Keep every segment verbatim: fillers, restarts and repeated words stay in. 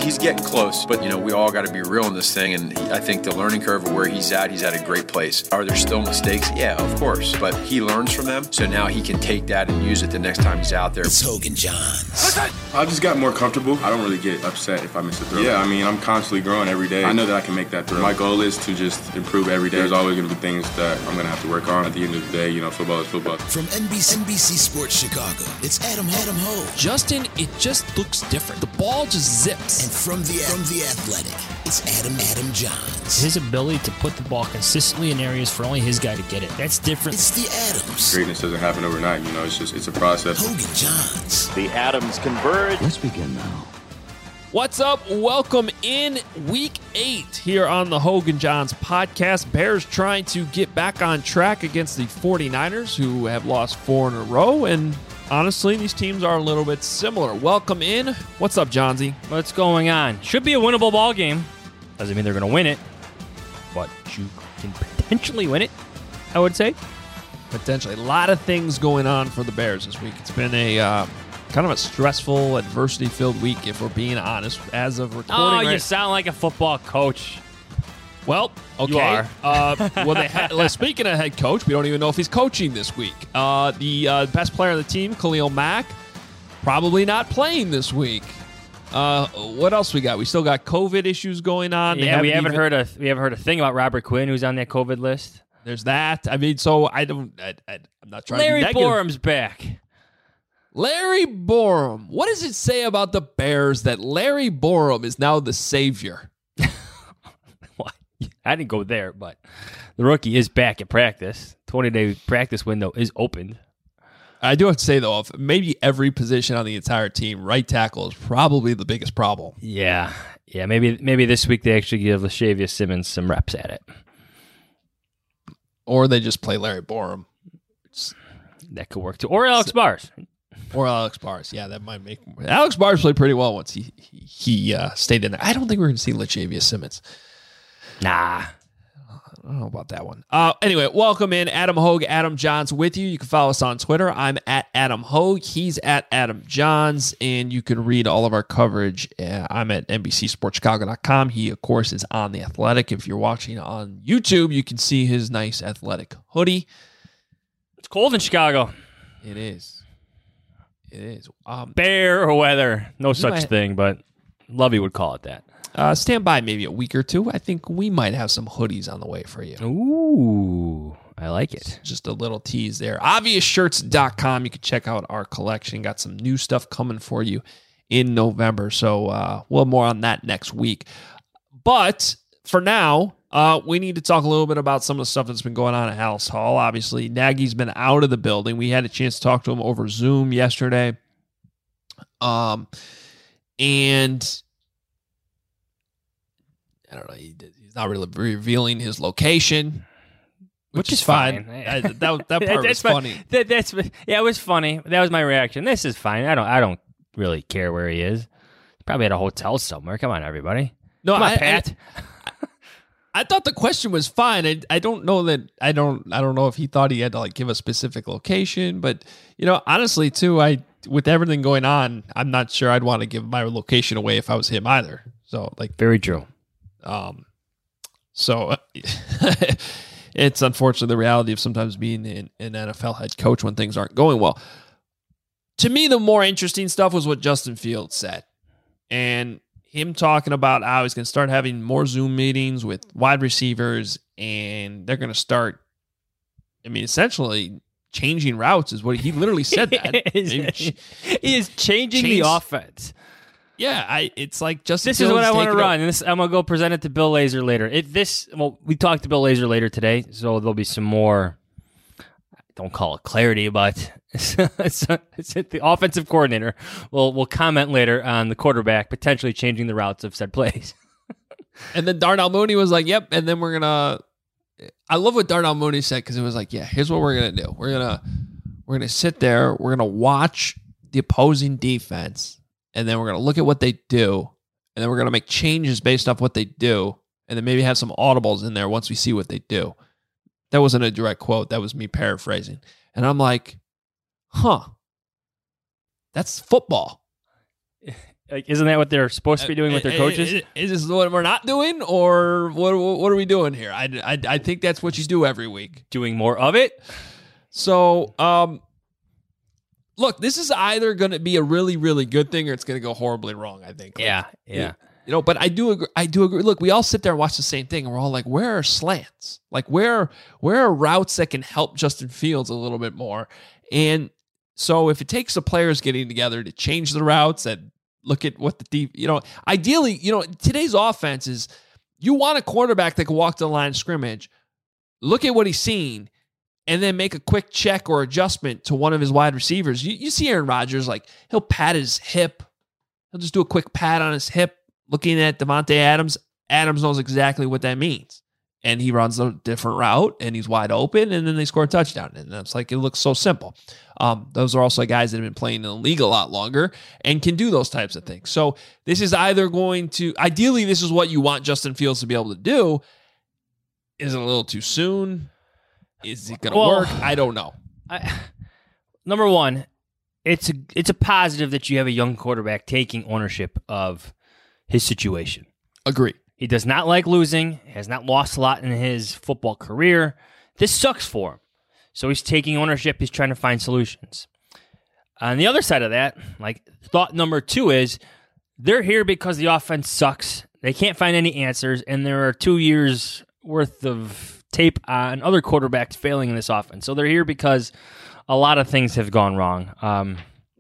he's getting close, but, you know, we all got to be real in this thing, and he, I think the learning curve of where he's at, he's at a great place. Are there still mistakes? Yeah, of course, but he learns from them, so now he can take that and use it the next time he's out there. It's Hogan Johns. I just got more comfortable. I don't really get upset if I miss a throw. Yeah, I mean, I'm constantly growing every day. I know that I can make that throw. My goal is to just improve every day. There's always going to be things that I'm going to have to work on. At the end of the day, you know, football is football. From N B C, N B C Sports Chicago, it's Adam, Adam Ho. Justin, it just looks different. The ball just zips. And from the, from the Athletic, it's Adam, Adam Johns. His ability to put the ball consistently in areas for only his guy to get it. That's different. It's the Adams. Greatness doesn't happen overnight, you know, it's just, it's a process. Hogan Johns. The Adams converge. Let's begin now. What's up? Welcome in week eight here on the Hogan Johns podcast. Bears trying to get back on track against the 49ers, who have lost four in a row. And honestly, these teams are a little bit similar. Welcome in. What's up, Johnsy? What's going on? Should be a winnable ball game. Doesn't mean they're going to win it, but you can potentially win it, I would say. Potentially. A lot of things going on for the Bears this week. It's been a uh, kind of a stressful, adversity-filled week, if we're being honest, as of recording. Oh, right? You sound like a football coach. Well, okay. You are. uh, well, they ha- well, speaking of head coach, we don't even know if he's coaching this week. Uh, the uh, best player on the team, Khalil Mack, probably not playing this week. Uh, what else we got? We still got COVID issues going on. Yeah, haven't we haven't even- heard a we haven't heard a thing about Robert Quinn, who's on that COVID list. There's that. I mean, so I don't. I, I, I'm not trying Larry to be negative. Borum's back. Larry Borum. What does it say about the Bears that Larry Borum is now the savior? Well, I didn't go there, but the rookie is back at practice. twenty-day practice window is opened. I do have to say, though, if maybe every position on the entire team, right tackle is probably the biggest problem. Yeah, yeah. Maybe maybe this week they actually give Lashavius Simmons some reps at it. Or they just play Larry Borum. That could work too. Or Alex Bars. Or Alex Bars. Yeah, that might make... Alex Bars played pretty well once he he, he uh, stayed in there. I don't think we're going to see Lashavius Simmons. Nah. I don't know about that one. Uh, anyway, welcome in. Adam Hogue, Adam Johns with you. You can follow us on Twitter. I'm at Adam Hogue. He's at Adam Johns. And you can read all of our coverage. Uh, I'm at N B C Sports Chicago dot com. He, of course, is on The Athletic. If you're watching on YouTube, you can see his nice Athletic hoodie. It's cold in Chicago. It is. It is. Um, Bear weather. No such might- thing, but Lovey would call it that. uh, stand by maybe a week or two. I think we might have some hoodies on the way for you. Ooh, I like it. Just a little tease there. obvious shirts dot com. You can check out our collection. Got some new stuff coming for you in November. So uh, we'll have more on that next week. But for now, uh, we need to talk a little bit about some of the stuff that's been going on at Halas Hall. Obviously, Nagy's been out of the building. We had a chance to talk to him over Zoom yesterday. Um, and I don't know. He, he's not really revealing his location. Which, Which is is fine. fine. I, that that part was That's fine. funny. That, that's yeah, it was funny. That was my reaction. This is fine. I don't I don't really care where he is. He's probably at a hotel somewhere. Come on, everybody. No, Come on, I, Pat. I, I thought the question was fine. I, I don't know that I don't I don't know if he thought he had to like give a specific location, but you know, honestly, too, I with everything going on, I'm not sure I'd want to give my location away if I was him either. So like, Very true. um, so. It's unfortunately the reality of sometimes being an, an N F L head coach when things aren't going well. To me, the more interesting stuff was what Justin Fields said. And him talking about how he's going to start having more Zoom meetings with wide receivers, and they're going to start, I mean, essentially changing routes is what he literally said that. he, is, he is changing Change- the offense. Yeah, I. It's like Justin This Fields is what I want to taking run. And this, I'm going to go present it to Bill Lazor later. If this, well, we talked to Bill Lazor later today, so there'll be some more, don't call it clarity, but it's, it's, it's the offensive coordinator will will comment later on the quarterback potentially changing the routes of said plays. And then Darnell Mooney was like, yep, and then we're going to, I love what Darnell Mooney said, because it was like, yeah, here's what we're going to do. We're going to, we're going to sit there, we're going to watch the opposing defense, and then we're going to look at what they do, and then we're going to make changes based off what they do, and then maybe have some audibles in there once we see what they do. That wasn't a direct quote. That was me paraphrasing. And I'm like, huh, that's football. Like, isn't that what they're supposed to be doing with their coaches? Is, is this what we're not doing, or what? What are we doing here? I, I, I think that's what you do every week. Doing more of it. So, um, look, this is either going to be a really, really good thing, or it's going to go horribly wrong. I think. Like, Yeah, yeah. You know, but I do agree. I do agree. Look, we all sit there and watch the same thing, and we're all like, "Where are slants? Like, where where are routes that can help Justin Fields a little bit more?" And so, if it takes the players getting together to change the routes and look at what the deep, you know, ideally, you know, today's offense is you want a quarterback that can walk to the line of scrimmage, look at what he's seen, and then make a quick check or adjustment to one of his wide receivers. You, you see Aaron Rodgers, like, he'll pat his hip. He'll just do a quick pat on his hip, looking at Devontae Adams. Adams knows exactly what that means. And he runs a different route, and he's wide open, and then they score a touchdown. And that's like, it looks so simple. Um, those are also guys that have been playing in the league a lot longer and can do those types of things. So this is either going to, ideally, this is what you want Justin Fields to be able to do. Is it a little too soon? Is it going to Well, work? I don't know. I, number one, it's a, it's a positive that you have a young quarterback taking ownership of his situation. Agree. He does not like losing, has not lost a lot in his football career. This sucks for him. So he's taking ownership. He's trying to find solutions. On the other side of that, like, thought number two is they're here because the offense sucks. They can't find any answers, and there are two years worth of tape on other quarterbacks failing in this offense. So they're here because a lot of things have gone wrong. Um,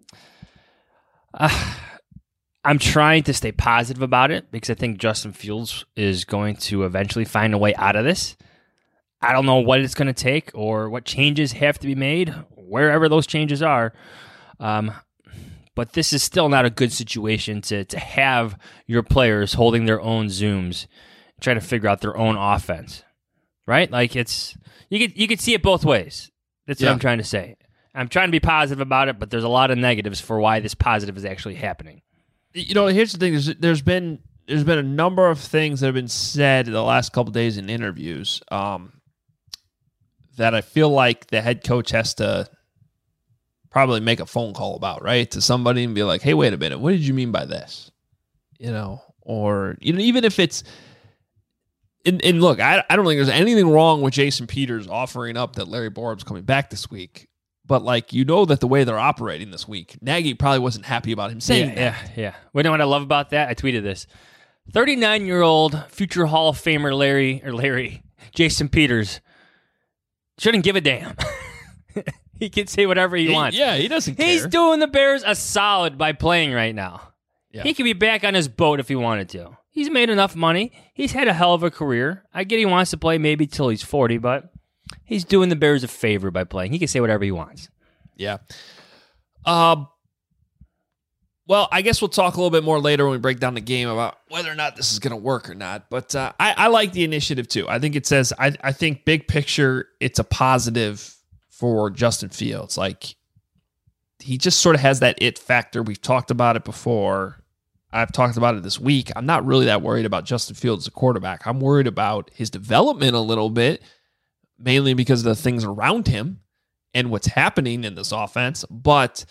uh, I'm trying to stay positive about it because I think Justin Fields is going to eventually find a way out of this. I don't know what it's going to take or what changes have to be made, wherever those changes are. Um, but this is still not a good situation to to have your players holding their own Zooms, trying to figure out their own offense, right? Like, it's you could you could see it both ways. That's Yeah. what I'm trying to say. I'm trying to be positive about it, but there's a lot of negatives for why this positive is actually happening. You know, here's the thing. There's, there's been there's been a number of things that have been said the last couple of days in interviews um, that I feel like the head coach has to probably make a phone call about, right? To somebody and be like, hey, wait a minute. What did you mean by this? You know, or, you know, even if it's, and, and look, I, I don't think there's anything wrong with Jason Peters offering up that Larry Borum's coming back this week. But, like, you know that the way they're operating this week, Nagy probably wasn't happy about him saying yeah, that. Yeah, yeah. You know what I love about that? I tweeted this. thirty-nine-year-old future Hall of Famer Larry, or Larry, Jason Peters, shouldn't give a damn. He can say whatever he, He- wants. yeah, he doesn't care. He's doing the Bears a solid by playing right now. Yeah. He could be back on his boat if he wanted to. He's made enough money. He's had a hell of a career. I get he wants to play maybe till he's forty, but he's doing the Bears a favor by playing. He can say whatever he wants. Yeah. Um. Well, I guess we'll talk a little bit more later when we break down the game about whether or not this is going to work or not. But uh, I, I like the initiative too. I think it says, I, I think big picture, it's a positive for Justin Fields. Like, he just sort of has that it factor. We've talked about it before. I've talked about it this week. I'm not really that worried about Justin Fields as a quarterback. I'm worried about his development a little bit, mainly because of the things around him and what's happening in this offense. But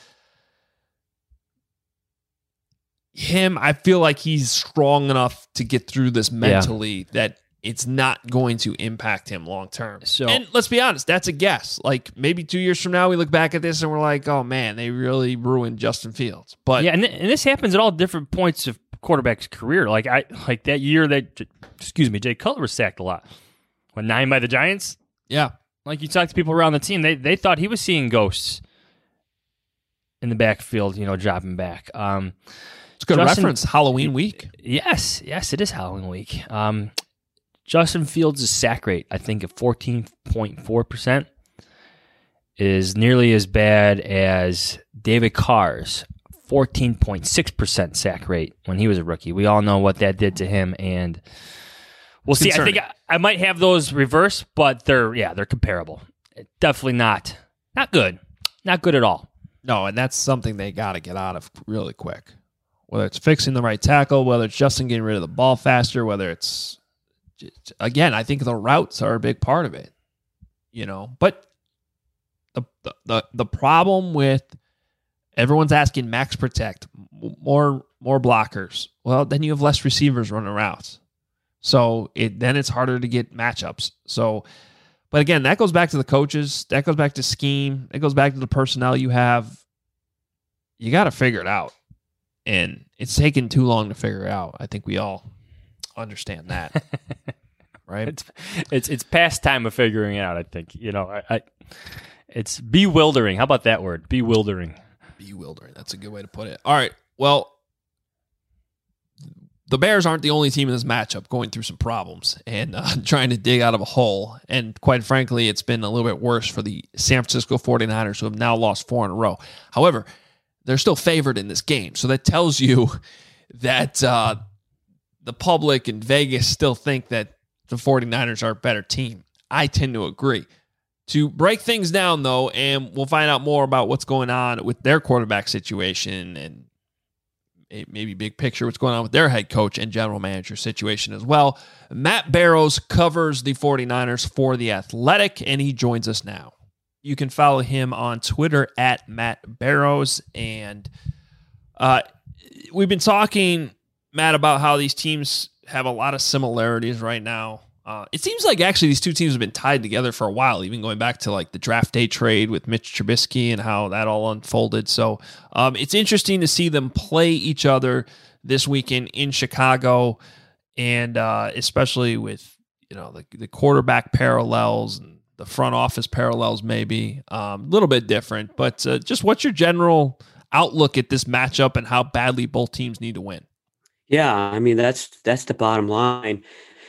him, I feel like he's strong enough to get through this mentally yeah. that it's not going to impact him long term. So, and let's be honest, that's a guess. Like, maybe two years from now, we look back at this and we're like, oh man, they really ruined Justin Fields. But yeah, and, th- and this happens at all different points of quarterback's career. Like I like that year that, excuse me, Jay Cutler was sacked a lot. When nine by the Giants? Yeah. Like, you talk to people around the team, they they thought he was seeing ghosts in the backfield, you know, dropping back. Um, it's a good Justin, reference. Halloween week. Yes, yes, it is Halloween week. Um, Justin Fields' sack rate, I think, at fourteen point four percent is nearly as bad as David Carr's fourteen point six percent sack rate when he was a rookie. We all know what that did to him, and we'll see. I think I, I might have those reversed, but they're yeah, they're comparable. Definitely not not good, not good at all. No, and that's something they got to get out of really quick. Whether it's fixing the right tackle, whether it's Justin getting rid of the ball faster, whether it's again, I think the routes are a big part of it. You know, but the the the, the problem with everyone's asking max protect more more blockers. Well, then you have less receivers running routes. So it then it's harder to get matchups. So, but again, that goes back to the coaches. That goes back to scheme. It goes back to the personnel you have. You got to figure it out. And it's taken too long to figure it out. I think we all understand that. Right? It's it's it's past time of figuring it out, I think. You know, I, I it's bewildering. How about that word? Bewildering. Bewildering. That's a good way to put it. All right. Well, the Bears aren't the only team in this matchup going through some problems and uh, trying to dig out of a hole. And quite frankly, it's been a little bit worse for the San Francisco forty-niners, who have now lost four in a row. However, they're still favored in this game. So that tells you that uh, the public and Vegas still think that the forty-niners are a better team. I tend to agree. To break things down, though, and we'll find out more about what's going on with their quarterback situation and maybe big picture what's going on with their head coach and general manager situation as well. Matt Barrows covers the forty-niners for The Athletic, and he joins us now. You can follow him on Twitter at Matt Barrows. And uh, we've been talking, Matt, about how these teams have a lot of similarities right now. Uh, it seems like actually these two teams have been tied together for a while, even going back to like the draft day trade with Mitch Trubisky and how that all unfolded. So um, it's interesting to see them play each other this weekend in Chicago, and uh, especially with, you know, the, the quarterback parallels and the front office parallels, maybe um, a little bit different. But uh, just what's your general outlook at this matchup and how badly both teams need to win? Yeah, I mean, that's that's the bottom line.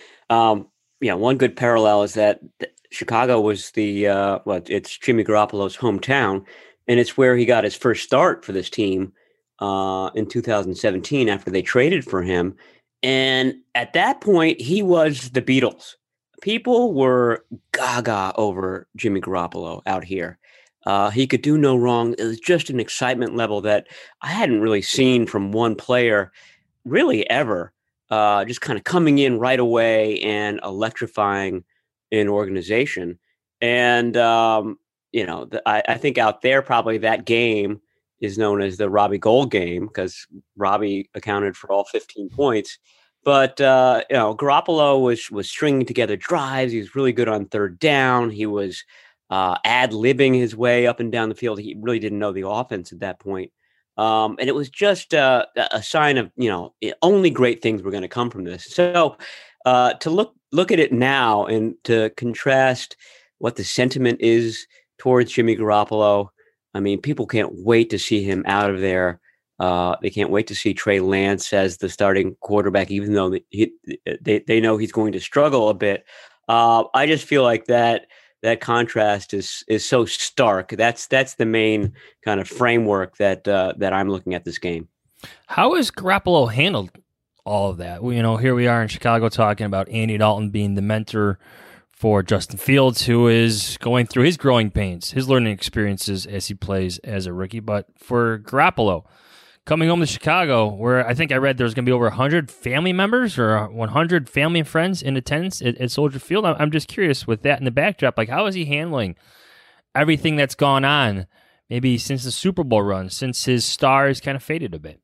Um, yeah, one good parallel is that Chicago was the, uh, well, it's Jimmy Garoppolo's hometown, and it's where he got his first start for this team uh, in two thousand seventeen after they traded for him. And at that point, he was the Beatles. People were gaga over Jimmy Garoppolo out here. Uh, he could do no wrong. It was just an excitement level that I hadn't really seen from one player really ever. Uh, just kind of coming in right away and electrifying an organization. And, um, you know, the, I, I think out there, probably that game is known as the Robbie Gould game because Robbie accounted for all fifteen points. But, uh, you know, Garoppolo was, was stringing together drives. He was really good on third down. He was uh, ad-libbing his way up and down the field. He really didn't know the offense at that point. Um, and it was just uh, a sign of, you know, only great things were going to come from this. So uh, to look look at it now and to contrast what the sentiment is towards Jimmy Garoppolo, I mean, people can't wait to see him out of there. Uh, they can't wait to see Trey Lance as the starting quarterback, even though he, they, they know he's going to struggle a bit. Uh, I just feel like that that contrast is is so stark. That's that's the main kind of framework that uh, that I'm looking at this game. How has Garoppolo handled all of that? Well, you know, here we are in Chicago talking about Andy Dalton being the mentor for Justin Fields, who is going through his growing pains, his learning experiences as he plays as a rookie. But for Garoppolo, coming home to Chicago, where I think I read there's going to be over one hundred family members or one hundred family and friends in attendance at, at Soldier Field. I'm just curious with that in the backdrop, like how is he handling everything that's gone on, maybe since the Super Bowl run, since his stars kind of faded a bit?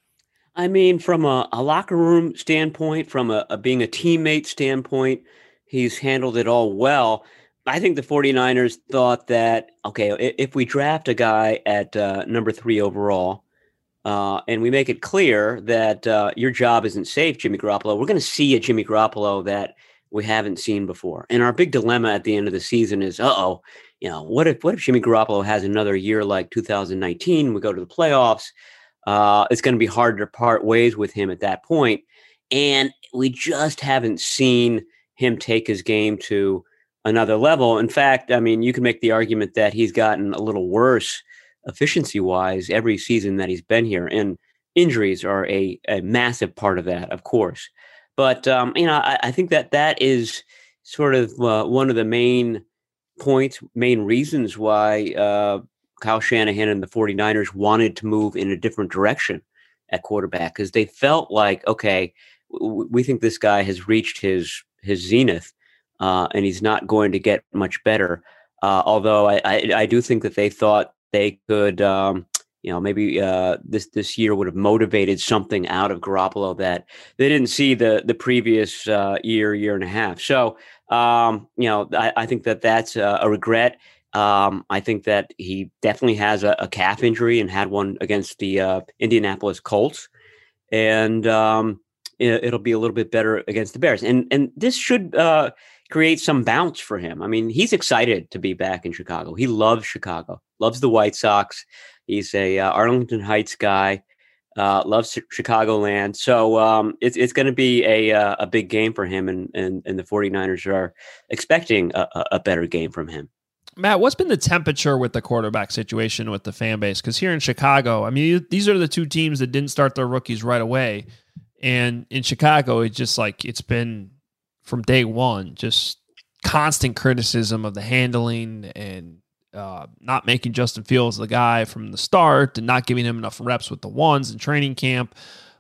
I mean, from a, a locker room standpoint, from a, a being a teammate standpoint, he's handled it all well. I think the forty-niners thought that, okay, if we draft a guy at uh, number three overall, Uh, and we make it clear that uh, your job isn't safe, Jimmy Garoppolo, we're going to see a Jimmy Garoppolo that we haven't seen before. And our big dilemma at the end of the season is, uh-oh, you know, what if what if Jimmy Garoppolo has another year like two thousand nineteen, we go to the playoffs, uh, it's going to be hard to part ways with him at that point. And we just haven't seen him take his game to another level. In fact, I mean, you can make the argument that he's gotten a little worse efficiency-wise every season that he's been here, and injuries are a, a massive part of that, of course. But um, you know, I, I think that that is sort of uh, one of the main points, main reasons why uh, Kyle Shanahan and the forty-niners wanted to move in a different direction at quarterback, because they felt like, okay, w- we think this guy has reached his his zenith, uh, and he's not going to get much better. Uh, although I, I, I do think that they thought they could, um, you you know, maybe uh, this this year would have motivated something out of Garoppolo that they didn't see the the previous uh, year, year and a half. So, um, you know, I, I think that that's a, a regret. Um, I think that he definitely has a, a calf injury and had one against the uh, Indianapolis Colts, and um, it, it'll be a little bit better against the Bears. And and this should uh, create some bounce for him. I mean, he's excited to be back in Chicago. He loves Chicago, loves the White Sox. He's a uh, Arlington Heights guy, uh, loves Chicagoland. So um, it's it's going to be a uh, a big game for him, and, and and the 49ers are expecting a, a better game from him. Matt, what's been the temperature with the quarterback situation with the fan base? Because here in Chicago, I mean, these are the two teams that didn't start their rookies right away. And in Chicago, it's just like it's been from day one, just constant criticism of the handling and uh, not making Justin Fields the guy from the start and not giving him enough reps with the ones in training camp.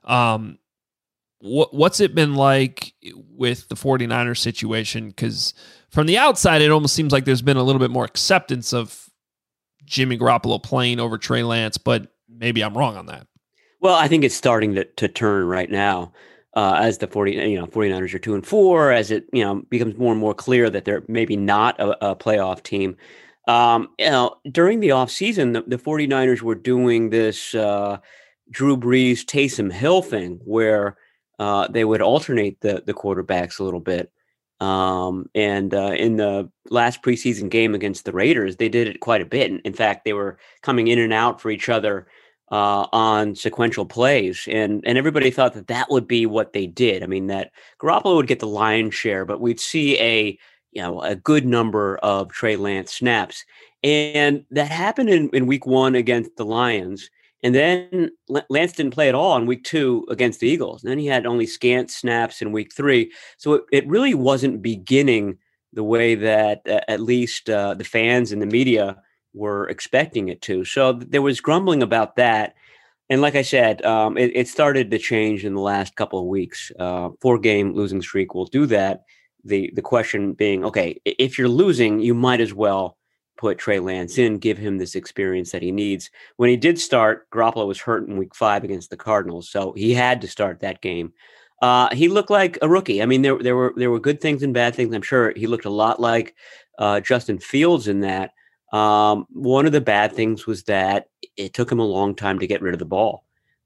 Um, what, what's it been like with the 49ers situation? Because from the outside, it almost seems like there's been a little bit more acceptance of Jimmy Garoppolo playing over Trey Lance, but maybe I'm wrong on that. Well, I think it's starting to, to turn right now uh, as the 40, you know, 49ers are two and four, as it, you know, becomes more and more clear that they're maybe not a, a playoff team. Um, you know, during the offseason, the, the 49ers were doing this uh, Drew Brees, Taysom Hill thing where uh, they would alternate the, the quarterbacks a little bit. Um, and uh, in the last preseason game against the Raiders, they did it quite a bit. In fact, they were coming in and out for each other uh, on sequential plays. And, and everybody thought that that would be what they did. I mean, that Garoppolo would get the lion's share, but we'd see a, you know, a good number of Trey Lance snaps. And that happened in, in week one against the Lions. And then Lance didn't play at all in week two against the Eagles. And then he had only scant snaps in week three. So it, it really wasn't beginning the way that uh, at least uh, the fans and the media were expecting it to. So there was grumbling about that. And like I said, um, it, it started to change in the last couple of weeks. Uh, four-game losing streak will do that. The, the question being, okay, if you're losing, you might as well put Trey Lance in, give him this experience that he needs. When he did start, Garoppolo was hurt in week five against the Cardinals, so he had to start that game. Uh, he looked like a rookie. I mean, there there were there were good things and bad things. I'm sure he looked a lot like uh, Justin Fields in that. Um, one of the bad things was that it took him a long time to get rid of the ball.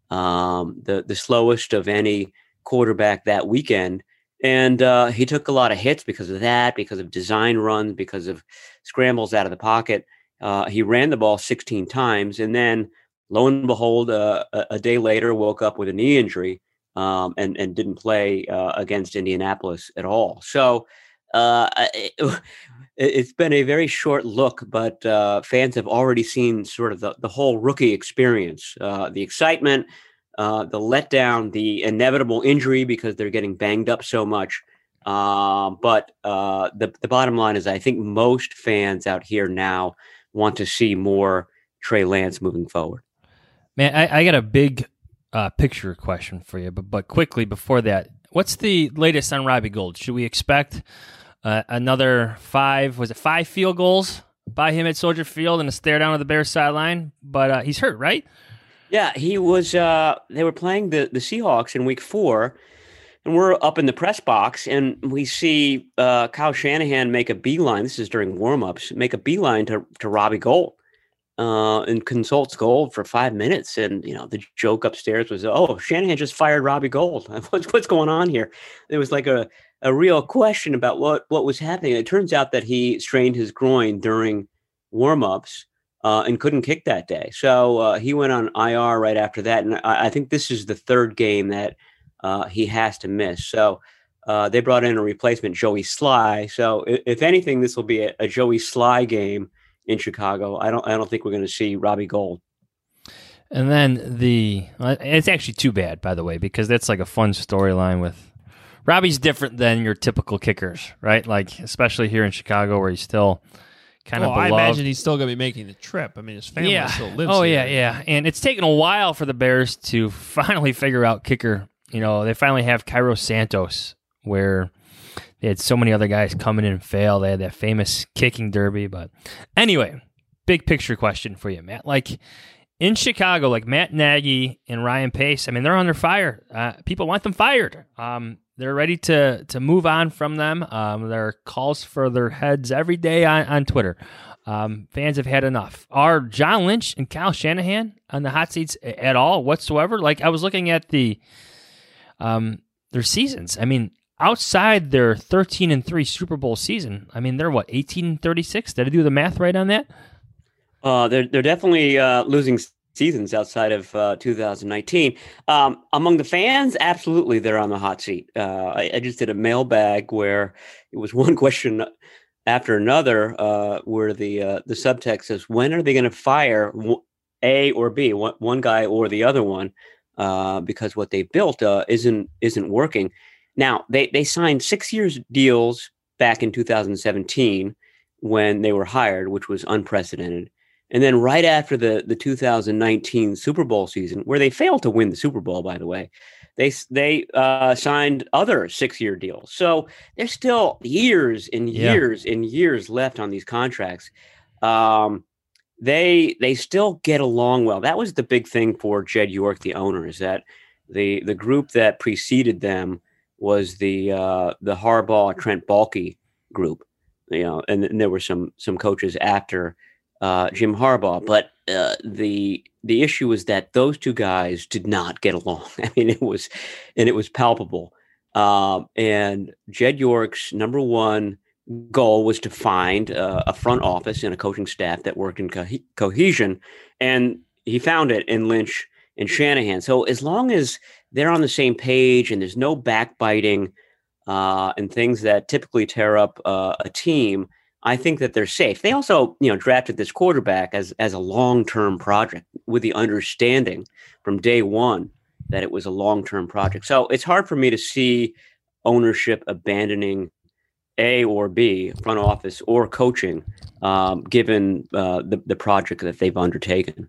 Um, the the slowest of any quarterback that weekend. And uh, he took a lot of hits because of that, because of design runs, because of scrambles out of the pocket. Uh, he ran the ball sixteen times, and then lo and behold, uh, a, a day later, woke up with a knee injury um, and, and didn't play uh, against Indianapolis at all. So uh, it, it's been a very short look, but uh, fans have already seen sort of the, the whole rookie experience, uh, the excitement, Uh, the letdown, the inevitable injury because they're getting banged up so much. Uh, but uh, the, the bottom line is I think most fans out here now want to see more Trey Lance moving forward. Man, I, I got a big uh, picture question for you, but but quickly before that, what's the latest on Robbie Gould? Should we expect uh, another five, was it five field goals by him at Soldier Field and a stare down at the Bears sideline? But uh, he's hurt, right? Yeah, he was, uh, they were playing the, the Seahawks in week four, and we're up in the press box, and we see uh, Kyle Shanahan make a beeline. This is during warmups, make a beeline to, to Robbie Gould uh, and consults Gould for five minutes. And, you know, the joke upstairs was, oh, Shanahan just fired Robbie Gould. What's, what's going on here? There was like a, a real question about what, what was happening. It turns out that he strained his groin during warmups. Uh, and couldn't kick that day. So uh, he went on I R right after that. And I, I think this is the third game that uh, he has to miss. So uh, they brought in a replacement, Joey Sly. So if, if anything, this will be a, a Joey Sly game in Chicago. I don't I don't think we're going to see Robbie Gould. And then the, it's actually too bad, by the way, because that's like a fun storyline with, Robbie's different than your typical kickers, right? Like, especially here in Chicago where he's still kind well, of beloved. I imagine he's still going to be making the trip. I mean, his family yeah. still lives Oh, here. yeah, yeah. And it's taken a while for the Bears to finally figure out kicker. You know, they finally have Cairo Santos, where they had so many other guys coming in and fail. They had that famous kicking derby. But anyway, big picture question for you, Matt. Like, in Chicago, like Matt Nagy and Ryan Pace, I mean, they're under fire. Uh, people want them fired. Um, they're ready to to move on from them. Um, there are calls for their heads every day on, on Twitter. Um, fans have had enough. Are John Lynch and Kyle Shanahan on the hot seats at all whatsoever? Like, I was looking at the um their seasons. I mean, outside their thirteen and three Super Bowl season, I mean, they're what, eighteen and thirty-six? Did I do the math right on that? Uh, they're they're definitely uh, losing seasons outside of uh, two thousand nineteen. Um, among the fans, absolutely, they're on the hot seat. Uh, I, I just did a mailbag where it was one question after another, uh, where the uh, the subtext says, "When are they going to fire A or B, one, one guy or the other one, uh, because what they built uh, isn't isn't working." Now they they signed six years deals back in two thousand seventeen when they were hired, which was unprecedented. And then right after the, the two thousand nineteen Super Bowl season, where they failed to win the Super Bowl, by the way, they they uh, signed other six-year deals. So there's still years and years yeah. and years left on these contracts. Um, they they still get along well. That was the big thing for Jed York, the owner, is that the the group that preceded them was the uh, the Harbaugh, Trent Baalke group. You know, and, and there were some some coaches after Uh, Jim Harbaugh, but uh, the the issue was that those two guys did not get along. I mean, it was, and it was palpable. Um, and Jed York's number one goal was to find uh, a front office and a coaching staff that worked in co- cohesion, and he found it in Lynch and Shanahan. So as long as they're on the same page and there's no backbiting uh, and things that typically tear up uh, a team, I think that they're safe. They also, you know, drafted this quarterback as as a long-term project with the understanding from day one that it was a long-term project. So it's hard for me to see ownership abandoning A or B, front office or coaching, um, given uh, the, the project that they've undertaken.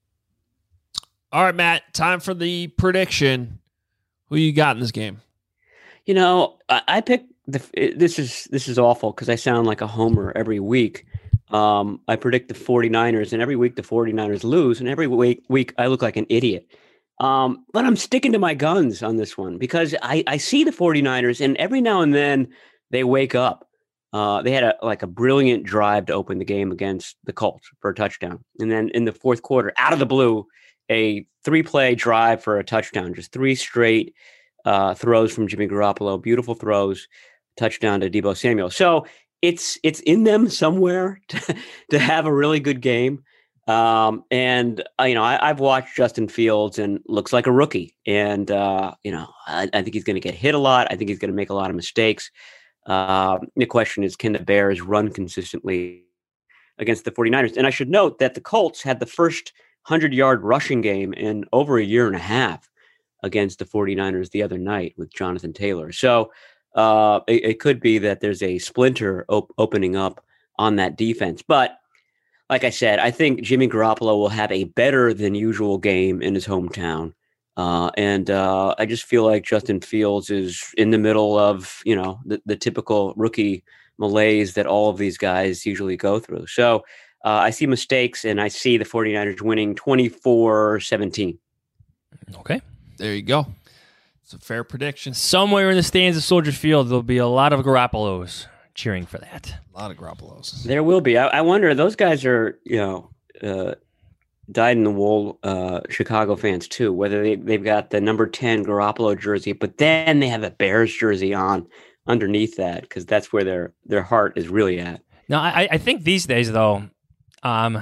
All right, Matt, time for the prediction. Who you got in this game? You know, I, I picked The, this is this is awful because I sound like a homer every week. Um, I predict the 49ers, and every week the 49ers lose, and every week, week I look like an idiot. Um, but I'm sticking to my guns on this one because I, I see the 49ers, and every now and then they wake up. Uh, they had a like a brilliant drive to open the game against the Colts for a touchdown. And then in the fourth quarter, out of the blue, a three-play drive for a touchdown, just three straight uh, throws from Jimmy Garoppolo, beautiful throws. Touchdown to Deebo Samuel. So it's it's in them somewhere to, to have a really good game. Um, and, uh, you know, I, I've watched Justin Fields and looks like a rookie. And, uh, you know, I, I think he's going to get hit a lot. I think he's going to make a lot of mistakes. Uh, the question is, can the Bears run consistently against the 49ers? And I should note that the Colts had the first hundred-yard rushing game in over a year and a half against the 49ers the other night with Jonathan Taylor. So, Uh, it, it could be that there's a splinter op- opening up on that defense. But like I said, I think Jimmy Garoppolo will have a better than usual game in his hometown. Uh, and uh, I just feel like Justin Fields is in the middle of, you know, the, the typical rookie malaise that all of these guys usually go through. So uh, I see mistakes, and I see the 49ers winning twenty-four seventeen. Okay. There you go. It's a fair prediction. Somewhere in the stands of Soldier Field, there'll be a lot of Garoppolos cheering for that. A lot of Garoppolos. There will be. I, I wonder, those guys are, you know, uh, dyed-in-the-wool uh, Chicago fans, too, whether they, they've got the number ten Garoppolo jersey, but then they have a Bears jersey on underneath that because that's where their, their heart is really at. No, I, I think these days, though, um,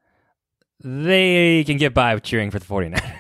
they can get by with cheering for the 49ers.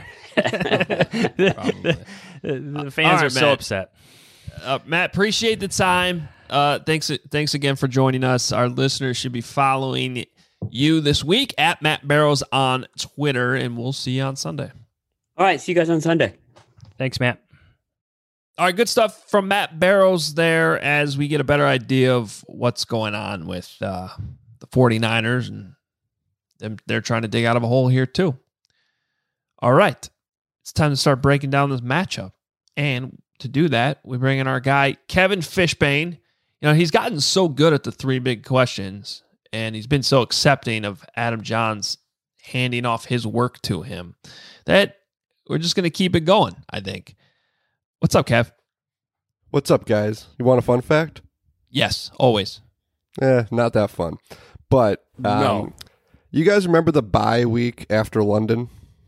the, the, the fans right, are so Matt. upset. Uh, Matt, appreciate the time. Uh, thanks, thanks again for joining us. Our listeners should be following you this week at Matt Barrows on Twitter, and we'll see you on Sunday. All right, see you guys on Sunday. Thanks, Matt. All right, good stuff from Matt Barrows there as we get a better idea of what's going on with uh, the 49ers, and them, they're trying to dig out of a hole here too. All right. It's time to start breaking down this matchup. And to do that, we bring in our guy, Kevin Fishbane. You know, he's gotten so good at the three big questions, and he's been so accepting of Adam John's handing off his work to him, that we're just going to keep it going, I think. What's up, Kev? What's up, guys? You want a fun fact? Yes, always. Eh, not that fun. But um, No. You guys remember the bye week after London?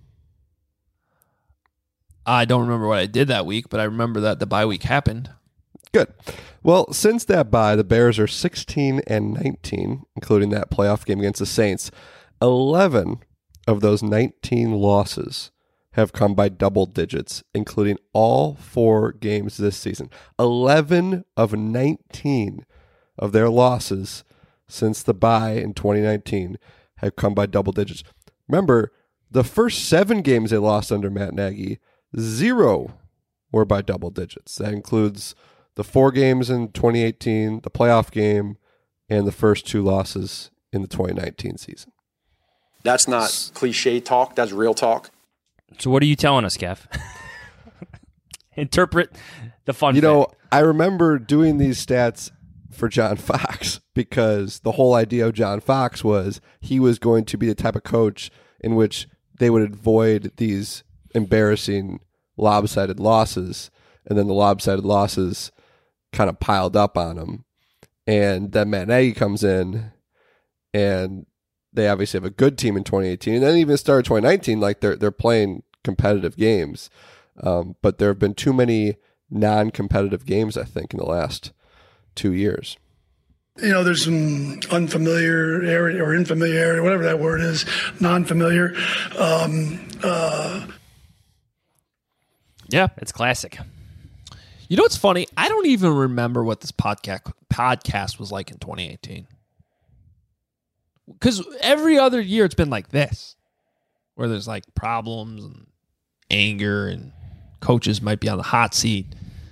I don't remember what I did that week, but I remember that the bye week happened. Good. Well, since that bye, the Bears are sixteen and nineteen, including that playoff game against the Saints. eleven of those nineteen losses have come by double digits, including all four games this season. eleven of nineteen of their losses since the bye in twenty nineteen have come by double digits. Remember, the first seven games they lost under Matt Nagy, zero were by double digits. That includes the four games in twenty eighteen, the playoff game, and the first two losses in the twenty nineteen season. That's not cliche talk. That's real talk. So what are you telling us, Kev? Interpret the fun You fact. know, I remember doing these stats for John Fox because the whole idea of John Fox was he was going to be the type of coach in which they would avoid these embarrassing lopsided losses, and then the lopsided losses kind of piled up on him. And then Matt Nagy comes in, and they obviously have a good team in twenty eighteen, and then even started twenty nineteen, like they're they're playing competitive games. Um, but there have been too many non-competitive games, I think, in the last two years. You know, there's some unfamiliar area or infamiliarity, whatever that word is, non-familiar. Um, uh, Yeah. It's classic. You know what's funny? I don't even remember what this podcast podcast was like in twenty eighteen. Because every other year it's been like this, where there's like problems and anger and coaches might be on the hot seat.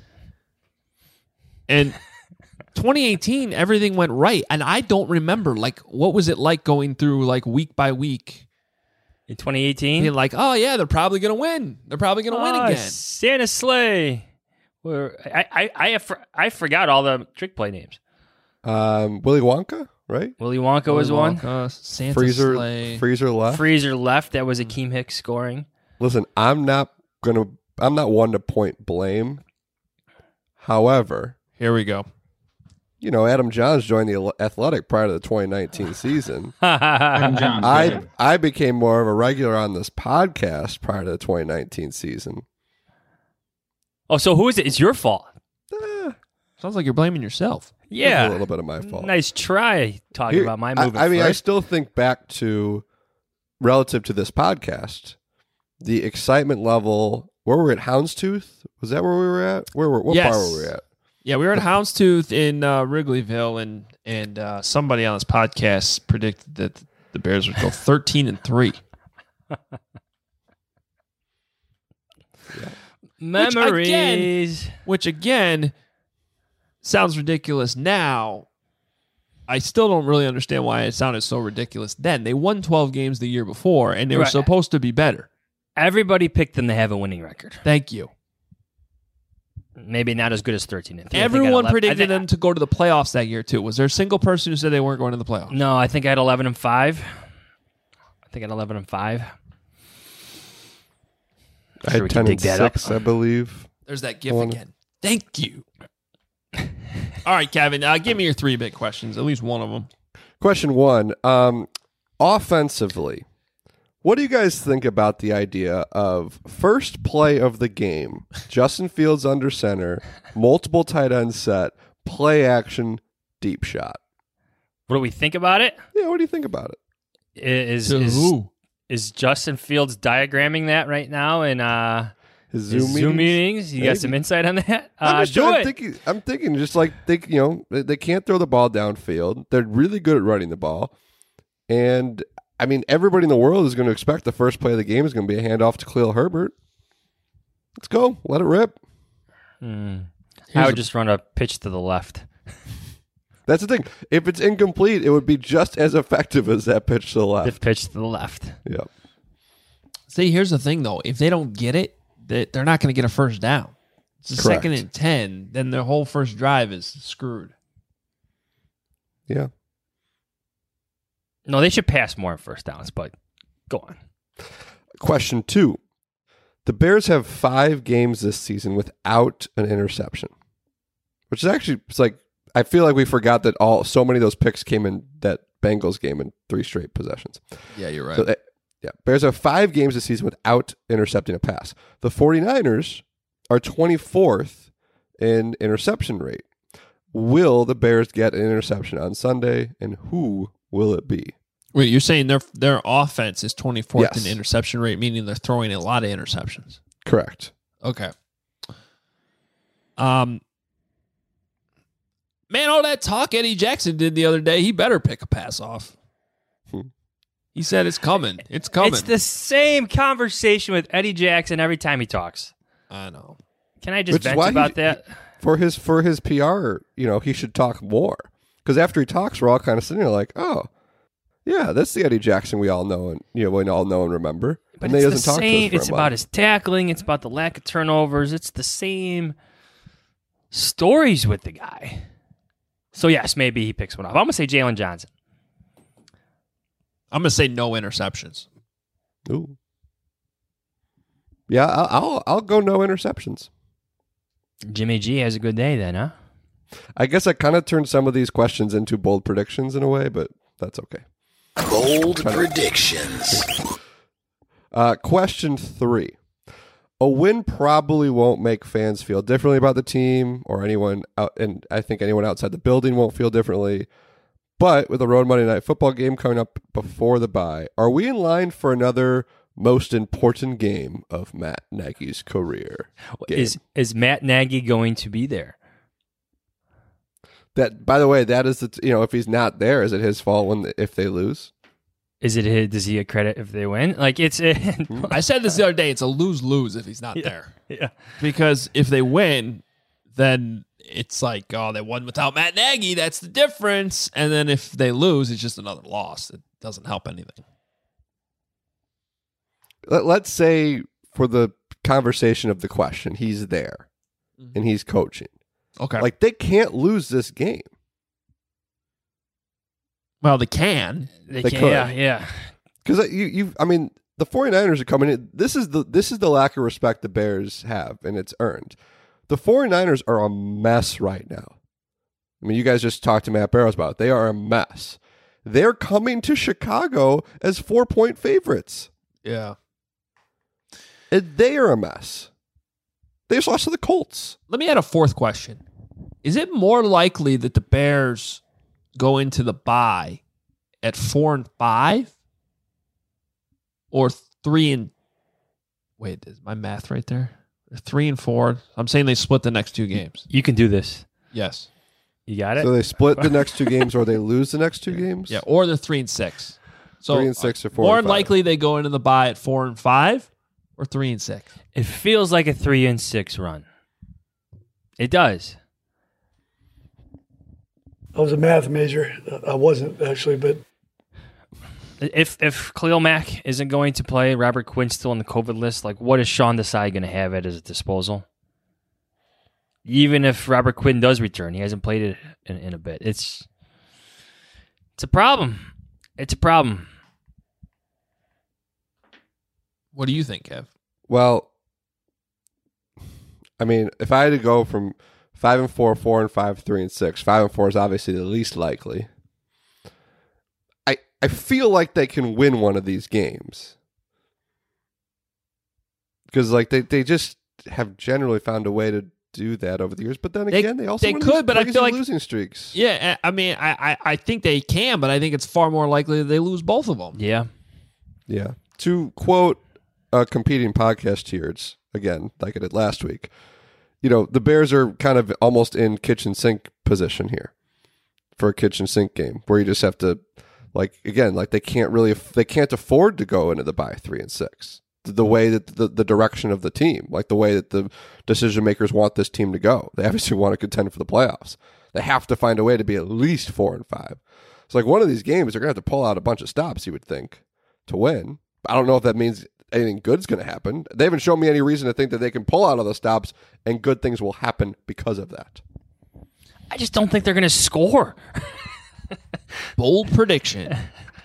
And twenty eighteen, everything went right. And I don't remember, like, what was it like going through, like, week by week? In twenty eighteen? Being like, oh, yeah, they're probably going to win. They're probably going to win Ah, again. Santa Sleigh. Where I, I, I, have, I forgot all the trick play names. Um, Willy Wonka, right? Willy Wonka was Willy one. Wonka, Santa Freezer, Sleigh. Freezer left. Freezer left. That was Akeem Hicks scoring. Listen, I'm not gonna. I'm not one to point blame. However, Here we go. you know, Adam Johns joined the Athletic prior to the twenty nineteen season. Adam Johns. I I became more of a regular on this podcast prior to the twenty nineteen season. Oh, so who is it? It's your fault. Eh, Sounds like you're blaming yourself. Yeah. a little bit of my fault. Nice try talking Here- about my I- moving I, mean, I first. still think back to relative to this podcast, the excitement level. Where were we at? Houndstooth? Was that where we were at? Where were what Yes. bar were we at? Yeah, we were at Houndstooth in uh, Wrigleyville, and and uh, somebody on this podcast predicted that the Bears would go thirteen and three. Memories. Which again sounds ridiculous now. I still don't really understand why it sounded so ridiculous then. They won twelve games the year before, and they were Right. supposed to be better. Everybody picked them to have a winning record. Thank you. Maybe not as good as thirteen and three. I think I had Everyone eleven I predicted think- them to go to the playoffs that year too. Was there a single person who said they weren't going to the playoffs? No, I think I had eleven and five. I think I had eleven and five. I Sure we had can ten dig and that up. six, I believe. There's that gif One. again. Thank you. All right, Kevin, uh, give me your three big questions, at least one of them. Question one: um, offensively, what do you guys think about the idea of first play of the game, Justin Fields under center, multiple tight end set, play action, deep shot? What do we think about it? Yeah, what do you think about it? Is To is, who? is Justin Fields diagramming that right now in uh, His his Zoom, Zoom, meetings? meetings? You Maybe. got some insight on that? I'm, Uh, just do trying- it. I'm thinking, I'm thinking just like think you know they, they can't throw the ball downfield. They're really good at running the ball, and I mean everybody in the world is going to expect the first play of the game is going to be a handoff to Khalil Herbert. Let's go, let it rip. Hmm. I Here's would a- just run a pitch to the left. That's the thing. If it's incomplete, it would be just as effective as that pitch to the The left. pitch to the left. Yeah. See, here's the thing, though. If they don't get it, they- they're not going to get a first down. It's a Correct. second and ten, then their whole first drive is screwed. Yeah. No, they should pass more on first downs, but Go on. Question two. The Bears have five games this season without an interception, which is actually, it's like, I feel like we forgot that all so many of those picks came in that Bengals game in three straight possessions. Yeah, you're right. So they, yeah, Bears have five games this season without intercepting a pass. The 49ers are twenty-fourth in interception rate. Will the Bears get an interception on Sunday, and who will it be? Wait, you're saying their their offense is twenty-fourth Yes. in interception rate, meaning they're throwing a lot of interceptions. Correct. Okay. Um, man, all that talk Eddie Jackson did the other day, he better pick a pass off. Hmm. He said it's coming. It's coming. It's the same conversation with Eddie Jackson every time he talks. I know. Can I just Which is vent why about he- that? For his for his P R, you know, he should talk more. Because after he talks, we're all kind of sitting there like, oh, yeah, that's the Eddie Jackson we all know and you know we all know and remember. But and he it's doesn't the talk same. to us for It's a about month. his tackling. It's about the lack of turnovers. It's the same stories with the guy. So yes, maybe he picks one up. I'm gonna say Jalen Johnson. I'm gonna say no interceptions. Ooh. Yeah, I'll, I'll I'll go no interceptions. Jimmy G has a good day then, huh? I guess I kind of turned some of these questions into bold predictions in a way, but that's okay. Bold predictions. Uh, question three. A win probably won't make fans feel differently about the team or anyone out, and I think anyone outside the building won't feel differently. But with a road Monday Night Football game coming up before the bye, are we in line for another most important game of Matt Nagy's career? Game? Is is Matt Nagy going to be there? That, by the way, that is the t- you know if he's not there, is it his fault when if they lose? Is it his, does he get credit if they win? Like it's I said this the other day. It's a lose lose if he's not Yeah. there. yeah. Because if they win, then it's like, oh, they won without Matt Nagy. That's the difference. And then if they lose, it's just another loss. It doesn't help anything. Let, let's say for the conversation of the question, he's there and he's coaching. Okay. Like they can't lose this game. Well, they can. They They can, could. yeah, yeah. Because you, you, I mean, the 49ers are coming in. This is the this is the lack of respect the Bears have, and it's earned. The 49ers are a mess right now. I mean, you guys just talked to Matt Barrows about it. They are a mess. They're coming to Chicago as four-point favorites. Yeah. And they are a mess. They just lost to the Colts. Let me add a fourth question. Is it more likely that the Bears go into the bye at four and five or three and wait, is my math right there? Three and four. I'm saying they split the next two games. You can do this. Yes. You got it? So they split the next two games, or they lose the next two games. Yeah, or they're three and six. So Three and six or four More and five. likely they go into the bye at four and five or three and six. It feels like a three and six run. It does. I was a math major. I wasn't actually, but If if Khalil Mack isn't going to play, Robert Quinn's still on the COVID list, like what is Sean Desai going to have at his disposal? Even if Robert Quinn does return, he hasn't played it in, in a bit. It's it's a problem. It's a problem. What do you think, Kev? Well, I mean, if I had to go from five and four, four and five, three and six, five and four is obviously the least likely. I I feel like they can win one of these games because, like, they, they just have generally found a way to do that over the years. But then They- again, they, also they win could, these but I crazy feel like- losing streaks. Yeah, I mean, I, I, I think they can, but I think it's far more likely that they lose both of them. Yeah. Yeah. To quote a competing podcast here, it's again like I did last week. You know, the Bears are kind of almost in kitchen sink position here for a kitchen sink game where you just have to, like, again, like they can't really, they can't afford to go into the bye three and six. The, the way that the, the direction of the team, like the way that the decision makers want this team to go. They obviously want to contend for the playoffs. They have to find a way to be at least four and five. It's like one of these games, they're going to have to pull out a bunch of stops, you would think, to win. I don't know if that means anything good's going to happen. They haven't shown me any reason to think that they can pull out all the stops and good things will happen because of that. I just don't think they're going to score. Bold prediction.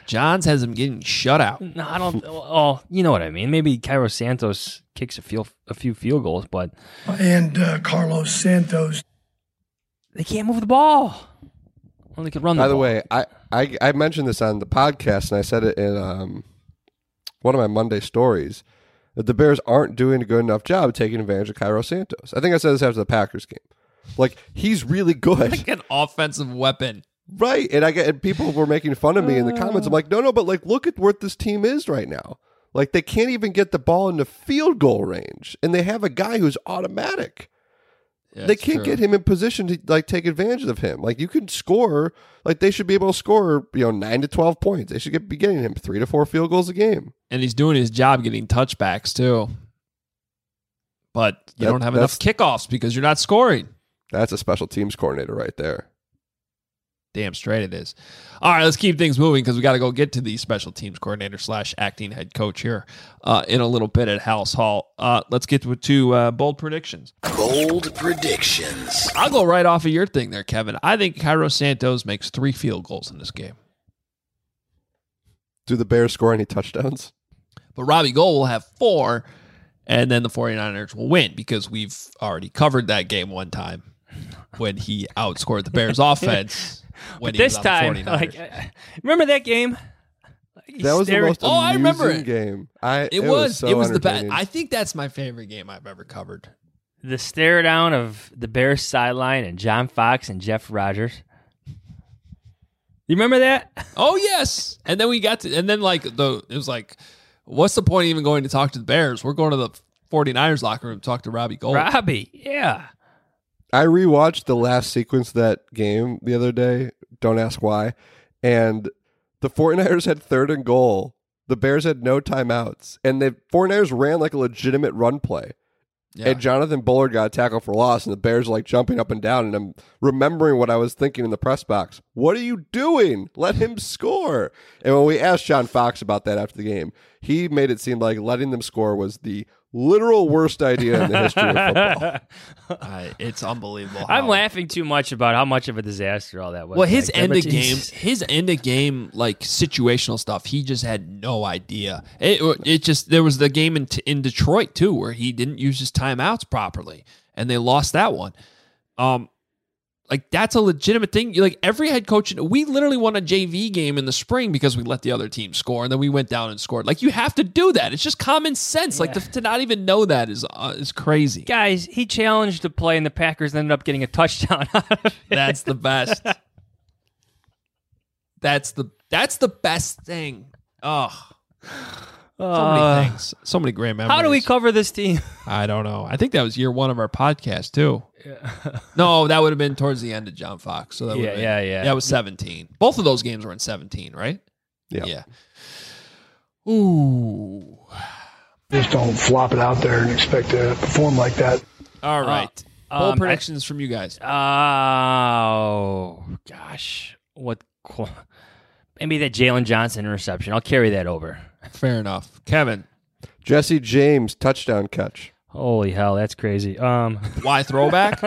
Johns has him getting shut out. No, I don't. Oh, you know what I mean. Maybe Cairo Santos kicks a few a few field goals, but And uh, Carlos Santos. they can't move the ball. Only could run the By the ball. way, I, I I mentioned this on the podcast, and I said it in um, one of my Monday stories, that the Bears aren't doing a good enough job taking advantage of Cairo Santos. I think I said this after the Packers game. Like, he's really good. Like an offensive weapon. Right. And I get and people were making fun of me in the comments. I'm like, no, no, but like, look at what this team is right now. Like, they can't even get the ball into field goal range, and they have a guy who's automatic. Yeah, they it's can't true. get him in position to like take advantage of him. Like, you can score, like they should be able to score, you know, nine to twelve points. They should get, be getting him three to four field goals a game. And he's doing his job getting touchbacks too. But you That- don't have enough kickoffs because you're not scoring. That's a special teams coordinator right there. Damn straight it is. All right, let's keep things moving because we got to go get to the special teams coordinator slash acting head coach here uh, in a little bit at House Hall. Uh, let's get to, to uh, bold predictions. Bold predictions. I'll go right off of your thing there, Kevin. I think Cairo Santos makes three field goals in this game. Do the Bears score any touchdowns? But Robbie Gould will have four, and then the 49ers will win because we've already covered that game one time when he outscored the Bears offense. When he this was on the time, 49ers. like, uh, remember that game? He That was the stared- most Oh, I remember amusing it. game. I, It, was, so it was the best. entertaining. I think that's my favorite game I've ever covered. the stare down of the Bears sideline and John Fox and Jeff Rogers. You remember that? Oh yes, and then we got to, and then like the it was like, what's the point of even going to talk to the Bears? We're going to the 49ers locker room to talk to Robbie Gould. Robbie, yeah. I rewatched the last sequence of that game the other day. Don't ask why. And the 49ers had third and goal. The Bears had no timeouts. And the 49ers ran like a legitimate run play. Yeah. And Jonathan Bullard got a tackle for loss, and the Bears are like jumping up and down. And I'm remembering what I was thinking in the press box. What are you doing? Let him score. And when we asked John Fox about that after the game, he made it seem like letting them score was the literal worst idea in the history of football. I, it's unbelievable. I'm how- laughing too much about how much of a disaster all that was. Well, his back then, end but of game, Jesus. his end of game, like situational stuff, he just had no idea. It, it just there was the game in in Detroit too, where he didn't use his timeouts properly, and they lost that one. Um, like that's a legitimate thing. Like every head coach, we literally won a J V game in the spring because we let the other team score, and then we went down and scored. Like you have to do that. It's just common sense. Like Yeah. to, to not even know that is uh, is crazy. Guys, he challenged to play, and the Packers ended up getting a touchdown out of it. That's the best. That's the that's the best thing. Oh, so many Uh, things, so many great memories. How do we cover this team? I don't know. I think that was year one of our podcast too. No, that would have been towards the end of John Fox. So that Yeah, would have been- yeah, yeah. That was seventeen. Both of those games were in seventeen, right? Yeah. Yeah. Ooh. Just don't flop it out there and expect to perform like that. All right. Bold um, predictions from you guys. Oh, gosh. What? qu- Maybe that Jalen Johnson interception. I'll carry that over. Fair enough. Kevin, Jesse James touchdown catch. Holy hell, that's crazy. Um, why throwback?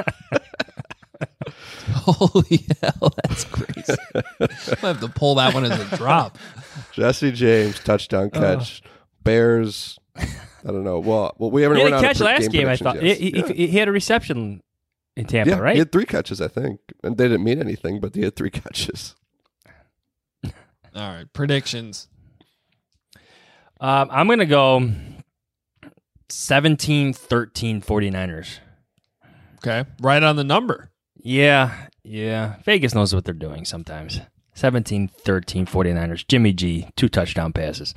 Holy hell, that's crazy. I have to pull that one as a drop. Jesse James touchdown catch. Bears. I don't know. Well, well, we haven't he had run a out of catch pre- last game, I predictions thought. yet. He, he- yeah. he had a reception in Tampa, Yeah, right? he had three catches, I think, and they didn't mean anything, but he had three catches. All right. Predictions. Um, I'm going to go seventeen thirteen 49ers. Okay. Right on the number. Yeah, yeah. Vegas knows what they're doing sometimes. seventeen thirteen 49ers. Jimmy G, two touchdown passes.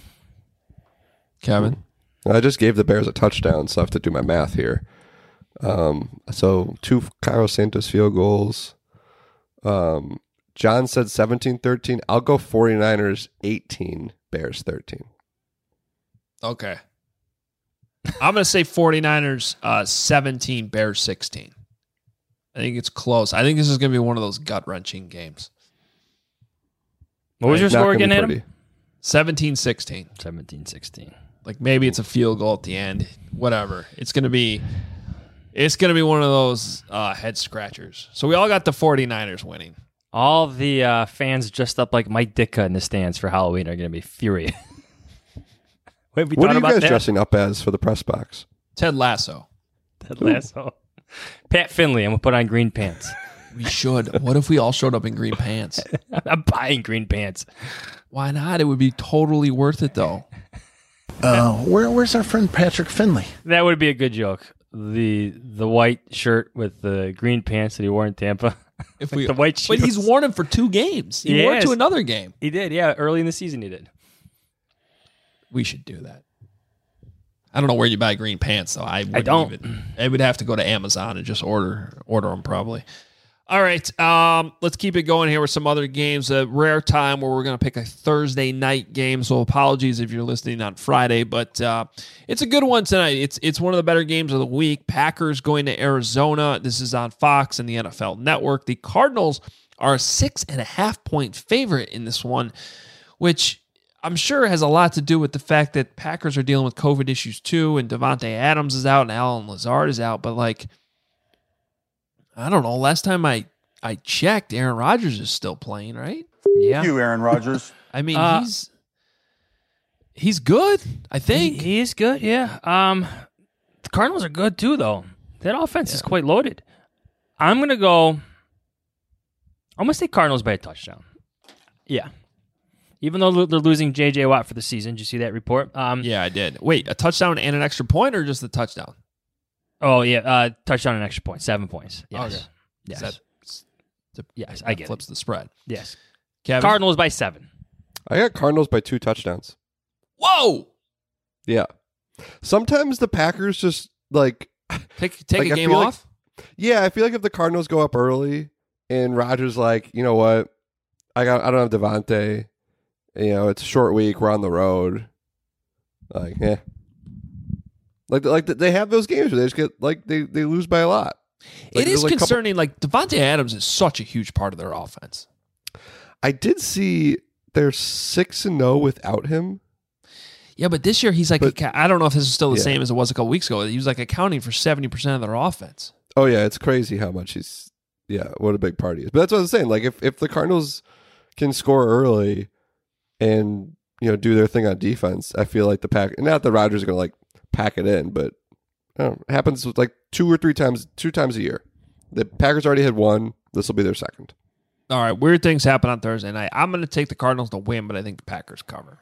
Kevin. I just gave the Bears a touchdown, so I have to do my math here. Um, so two Cairo Santos field goals. Um, John said seventeen thirteen. I'll go 49ers eighteen, Bears thirteen. Okay. I'm going to say 49ers uh, seventeen, Bears sixteen. I think it's close. I think this is going to be one of those gut-wrenching games. What was your Not score gonna be again, Adam? pretty. seventeen sixteen. seventeen sixteen. Like maybe it's a field goal at the end. Whatever. It's going to be it's going to be one of those uh, head scratchers. So we all got the 49ers winning. All the uh, fans dressed up like Mike Ditka in the stands for Halloween are going to be furious. Wait, we what are you guys that? dressing up as for the press box? Ted Lasso. Ted Lasso. Pat Finley, and we'll put on green pants. We should. What if we all showed up in green pants? I'm buying green pants. Why not? It would be totally worth it, though. Uh, where where's our friend Patrick Finley? That would be a good joke. The the white shirt with the green pants that he wore in Tampa. If we the white shoes. But he's worn them for two games. He Yes. wore it to another game. He did, yeah. Early in the season, he did. We should do that. I don't know where you buy green pants, though. I, I don't. Even, I would have to go to Amazon and just order order them, probably. All right, um, let's keep it going here with some other games. A rare time where we're going to pick a Thursday night game, so apologies if you're listening on Friday, but uh, it's a good one tonight. It's it's one of the better games of the week. Packers going to Arizona. This is on Fox and the N F L Network. The Cardinals are a six and a half point favorite in this one, which I'm sure has a lot to do with the fact that Packers are dealing with COVID issues too, and Devontae Adams is out and Alan Lazard is out, but like, I don't know. Last time I, I checked, Aaron Rodgers is still playing, right? Yeah. You, Aaron Rodgers. I mean, Uh, he's he's good, I He, think. he is good, yeah. Um, the Cardinals are good too, though. That offense is quite loaded. I'm gonna go. I'm gonna say Cardinals by a touchdown. Yeah. Even though they're losing J J Watt for the season, did you see that report? Um, Yeah, I did. Wait, a touchdown and an extra point, or just the touchdown? Oh yeah, uh, touchdown and extra point, seven points. Yes, Okay. yes, That, to, yes. that I get flips it. the spread. Yes, Kevin? Cardinals by seven. I got Cardinals by two touchdowns. Whoa! Yeah. Sometimes the Packers just like Take take Like, a I game feel like- off. yeah, I feel like if the Cardinals go up early and Rodgers like, you know what, I got I don't have Devontae. You know, it's a short week. We're on the road. Like, yeah. Like, like they have those games where they just get like they, they lose by a lot. Like, it is there's, like, couple- concerning. Like Devontae Adams is such a huge part of their offense. I did see they're six and zero without him. Yeah, but this year he's like, But- I don't know if this is still the Yeah. same as it was a couple weeks ago. He was like accounting for seventy percent of their offense. Oh yeah, it's crazy how much he's. Yeah, what a big part he is. But that's what I was saying. Like, if if the Cardinals can score early and you know do their thing on defense, I feel like the pack. Not that Rodgers are gonna like pack it in, but I don't know, it happens with like two or three times, two times a year. The Packers already had one. This will be their second. All right, weird things happen on Thursday night. I'm going to take the Cardinals to win, but I think the Packers cover.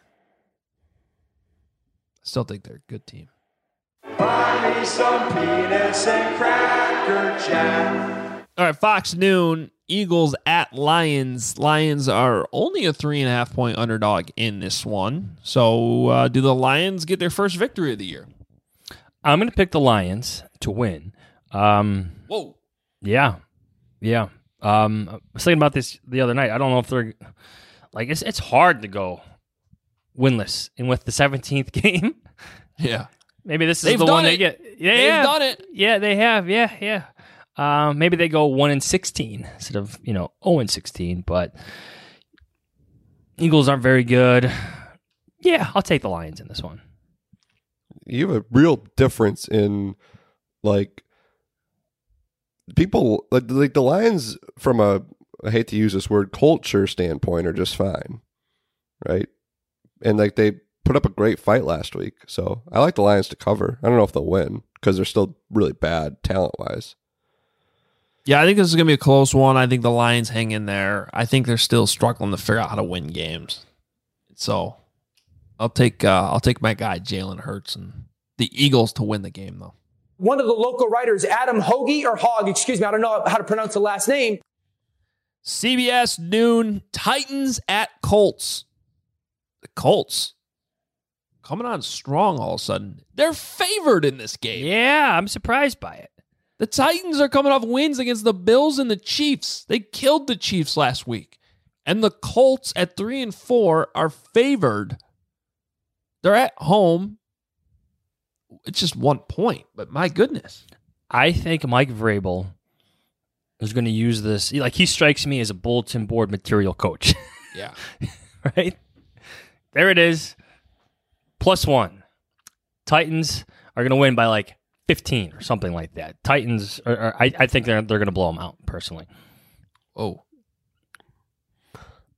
I still think they're a good team. Buy me some peanuts and cracker jack. All right, Fox Noon, Eagles at Lions. Lions are only a three and a half point underdog in this one. So uh, do the Lions get their first victory of the year? I'm going to pick the Lions to win. Um, Whoa. Yeah, yeah. Um, I was thinking about this the other night. I don't know if they're like it's it's hard to go winless and with the seventeenth game. Yeah. Maybe this is They've the done one it. they get. Yeah, They've yeah. done it. Yeah, they have. Yeah, yeah. Um, maybe they go one and sixteen instead of you know zero and sixteen. But Eagles aren't very good. Yeah, I'll take the Lions in this one. You have a real difference in like people like, like the Lions from a I hate to use this word culture standpoint are just fine, right? And like they put up a great fight last week, so I like the Lions to cover. I don't know if they'll win because they're still really bad talent wise. Yeah, I think this is going to be a close one. I think the Lions hang in there. I think they're still struggling to figure out how to win games. So I'll take uh, I'll take my guy Jalen Hurts and the Eagles to win the game though. One of the local writers, Adam Hoagie or Hogg, excuse me, I don't know how to pronounce the last name. C B S noon, Titans at Colts. The Colts coming on strong all of a sudden. They're favored in this game. Yeah, I'm surprised by it. The Titans are coming off wins against the Bills and the Chiefs. They killed the Chiefs last week. And the Colts at three and four are favored. They're at home. It's just one point, but my goodness. I think Mike Vrabel is going to use this. Like, he strikes me as a bulletin board material coach. Yeah. Right? There it is. Plus one. Titans are going to win by like fifteen or something like that. Titans, are, are, I, I think they're they're going to blow them out, personally. Oh.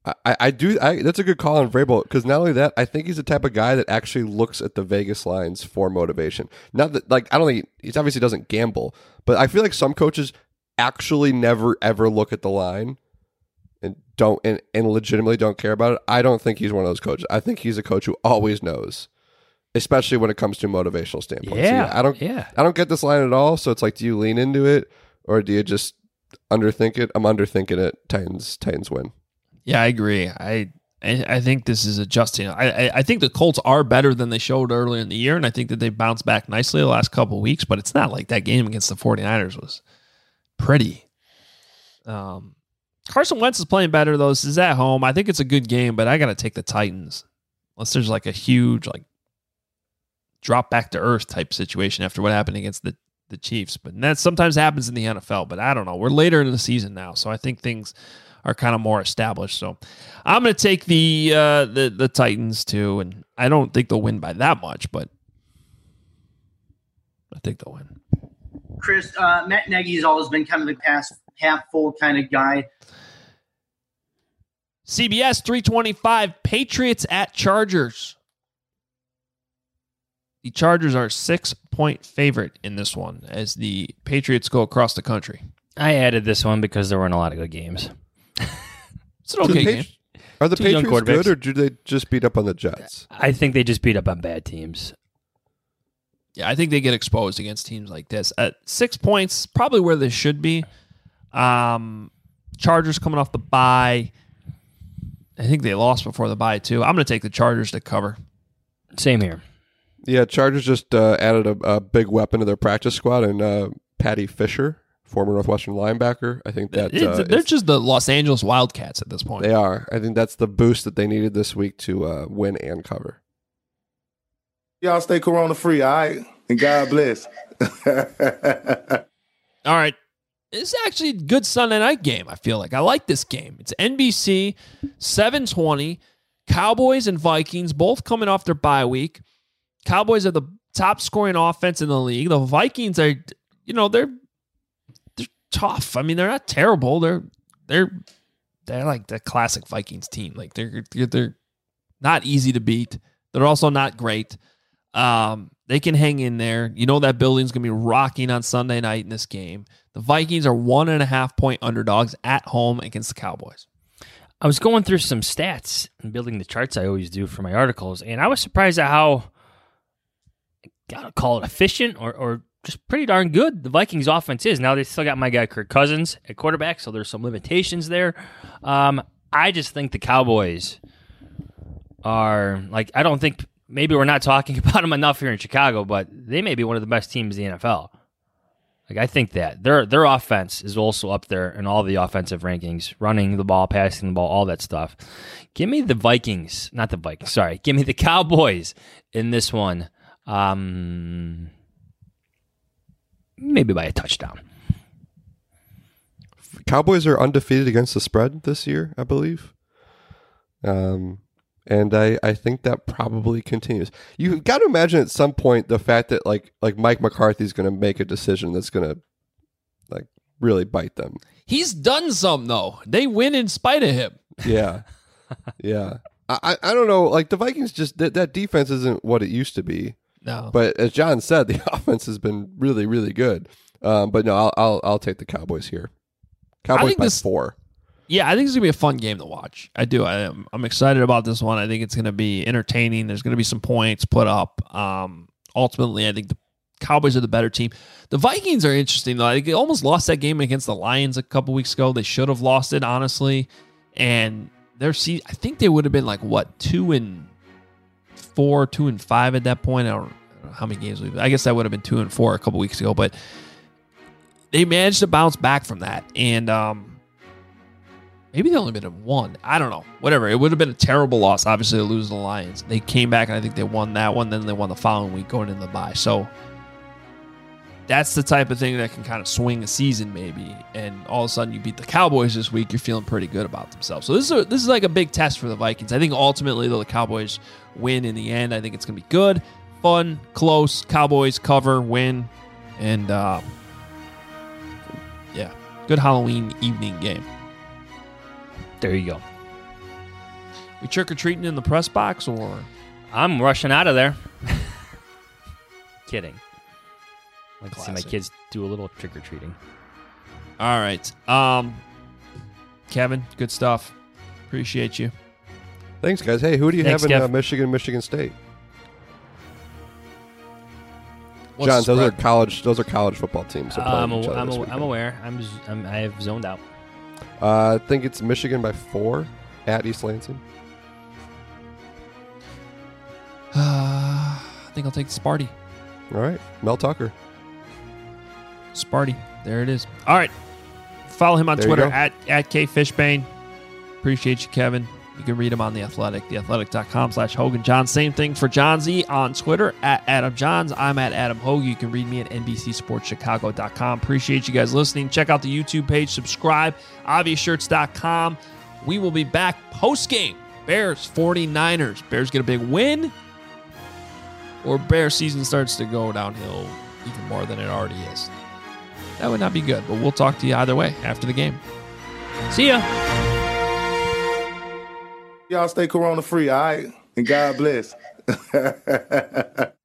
I, I do. I, that's a good call on Vrabel because not only that, I think he's the type of guy that actually looks at the Vegas lines for motivation. Not that, like, I don't think he obviously doesn't gamble, but I feel like some coaches actually never ever look at the line and don't and, and legitimately don't care about it. I don't think he's one of those coaches. I think he's a coach who always knows, especially when it comes to motivational standpoint. Yeah, so yeah, I don't. Yeah. I don't get this line at all. So it's like, do you lean into it or do you just underthink it? I'm underthinking it. Titans. Titans win. Yeah, I agree. I I, I think this is adjusting. I, I I think the Colts are better than they showed earlier in the year, and I think that they've bounced back nicely the last couple of weeks, but it's not like that game against the 49ers was pretty. Um, Carson Wentz is playing better, though. This is at home. I think it's a good game, but I got to take the Titans. Unless there's like a huge like drop back to earth type situation after what happened against the, the Chiefs. But that sometimes happens in the N F L, but I don't know. We're later in the season now, so I think things are kind of more established. So I'm going to take the, uh, the the Titans too, and I don't think they'll win by that much, but I think they'll win. Chris, uh, Matt Nagy has always been kind of the past half full kind of guy. C B S three twenty-five, Patriots at Chargers. The Chargers are six-point favorite in this one as the Patriots go across the country. I added this one because there weren't a lot of good games. It's an okay game. Are the Two young Patriots quarterbacks. good, or do they just beat up on the Jets? I think they just beat up on bad teams. Yeah, I think they get exposed against teams like this. At six points, probably where they should be. Um, Chargers coming off the bye. I think they lost before the bye, too. I'm going to take the Chargers to cover. Same here. Yeah, Chargers just uh, added a, a big weapon to their practice squad, and uh, Patty Fisher, former Northwestern linebacker. I think that uh, they're just the Los Angeles Wildcats at this point. They are. I think that's the boost that they needed this week to uh, win and cover. Y'all stay corona free, all right? And God bless. All right. It's actually a good Sunday night game, I feel like. I like this game. It's N B C, seven twenty. Cowboys and Vikings, both coming off their bye week. Cowboys are the top scoring offense in the league. The Vikings are, you know, they're they're tough. I mean, they're not terrible. They're they're they're like the classic Vikings team. Like they're they're not easy to beat. They're also not great. Um, they can hang in there. You know that building's gonna be rocking on Sunday night in this game. The Vikings are one and a half point underdogs at home against the Cowboys. I was going through some stats and building the charts I always do for my articles, and I was surprised at how, gotta call it efficient or, or just pretty darn good the Vikings offense is. Now they still got my guy Kirk Cousins at quarterback, so there's some limitations there. Um, I just think the Cowboys are, like, I don't think, maybe we're not talking about them enough here in Chicago, but they may be one of the best teams in the N F L. Like, I think that their their offense is also up there in all the offensive rankings, running the ball, passing the ball, all that stuff. Give me the Vikings, not the Vikings, sorry. Give me the Cowboys in this one. Um, maybe by a touchdown. Cowboys are undefeated against the spread this year, I believe. Um, and I, I think that probably continues. You've got to imagine at some point the fact that like like Mike McCarthy's going to make a decision that's going to like really bite them. He's done some though. They win in spite of him. Yeah, yeah. I, I don't know. Like the Vikings, just that, that defense isn't what it used to be. No. But as John said, the offense has been really, really good. Um, but no, I'll, I'll I'll take the Cowboys here. Cowboys by this, four. Yeah, I think it's gonna be a fun game to watch. I do. I am. I'm excited about this one. I think it's gonna be entertaining. There's gonna be some points put up. Um, ultimately, I think the Cowboys are the better team. The Vikings are interesting though. They almost lost that game against the Lions a couple weeks ago. They should have lost it, honestly. And their season, I think they would have been like what two and four, two and five at that point. I don't, I don't know how many games we've. I guess that would have been two and four a couple weeks ago, but they managed to bounce back from that. And um, maybe they only been in one. I don't know. Whatever. It would have been a terrible loss, obviously, to lose to the Lions. They came back, and I think they won that one. Then they won the following week going into the bye. So that's the type of thing that can kind of swing a season, maybe. And all of a sudden, you beat the Cowboys this week. You're feeling pretty good about themselves. So this is a, this is like a big test for the Vikings. I think ultimately, though, the Cowboys win in the end. I think it's going to be good, fun, close. Cowboys cover, win, and uh, yeah, good Halloween evening game. There you go. We trick-or-treating in the press box, or? I'm rushing out of there. Kidding. I'd like to see my kids do a little trick-or-treating. All right. Um, Kevin, good stuff. Appreciate you. Thanks, guys. Hey, who do you Thanks, have in Kev. uh, Michigan, Michigan State? What's John, the those are spread? college. Those are college football teams. that play I'm, each aw- other I'm, this aw- weekend. I'm aware. I'm, z- I'm I have zoned out. Uh, I think it's Michigan by four at East Lansing. Uh, I think I'll take Sparty. All right, Mel Tucker. Sparty. There it is. All right. Follow him on There you Twitter go. at, at K Fishbane. Appreciate you, Kevin. You can read him on The Athletic, theathletic.com slash Hogan Johns. Same thing for John Z on Twitter at Adam Johns. I'm at Adam Hogue. You can read me at N B C Sports Chicago dot com. Appreciate you guys listening. Check out the YouTube page. Subscribe. obvious shirts dot com. We will be back post-game. Bears, forty-niners. Bears get a big win, or Bear season starts to go downhill even more than it already is. That would not be good, but we'll talk to you either way after the game. See ya. Y'all stay corona free, all right? And God bless.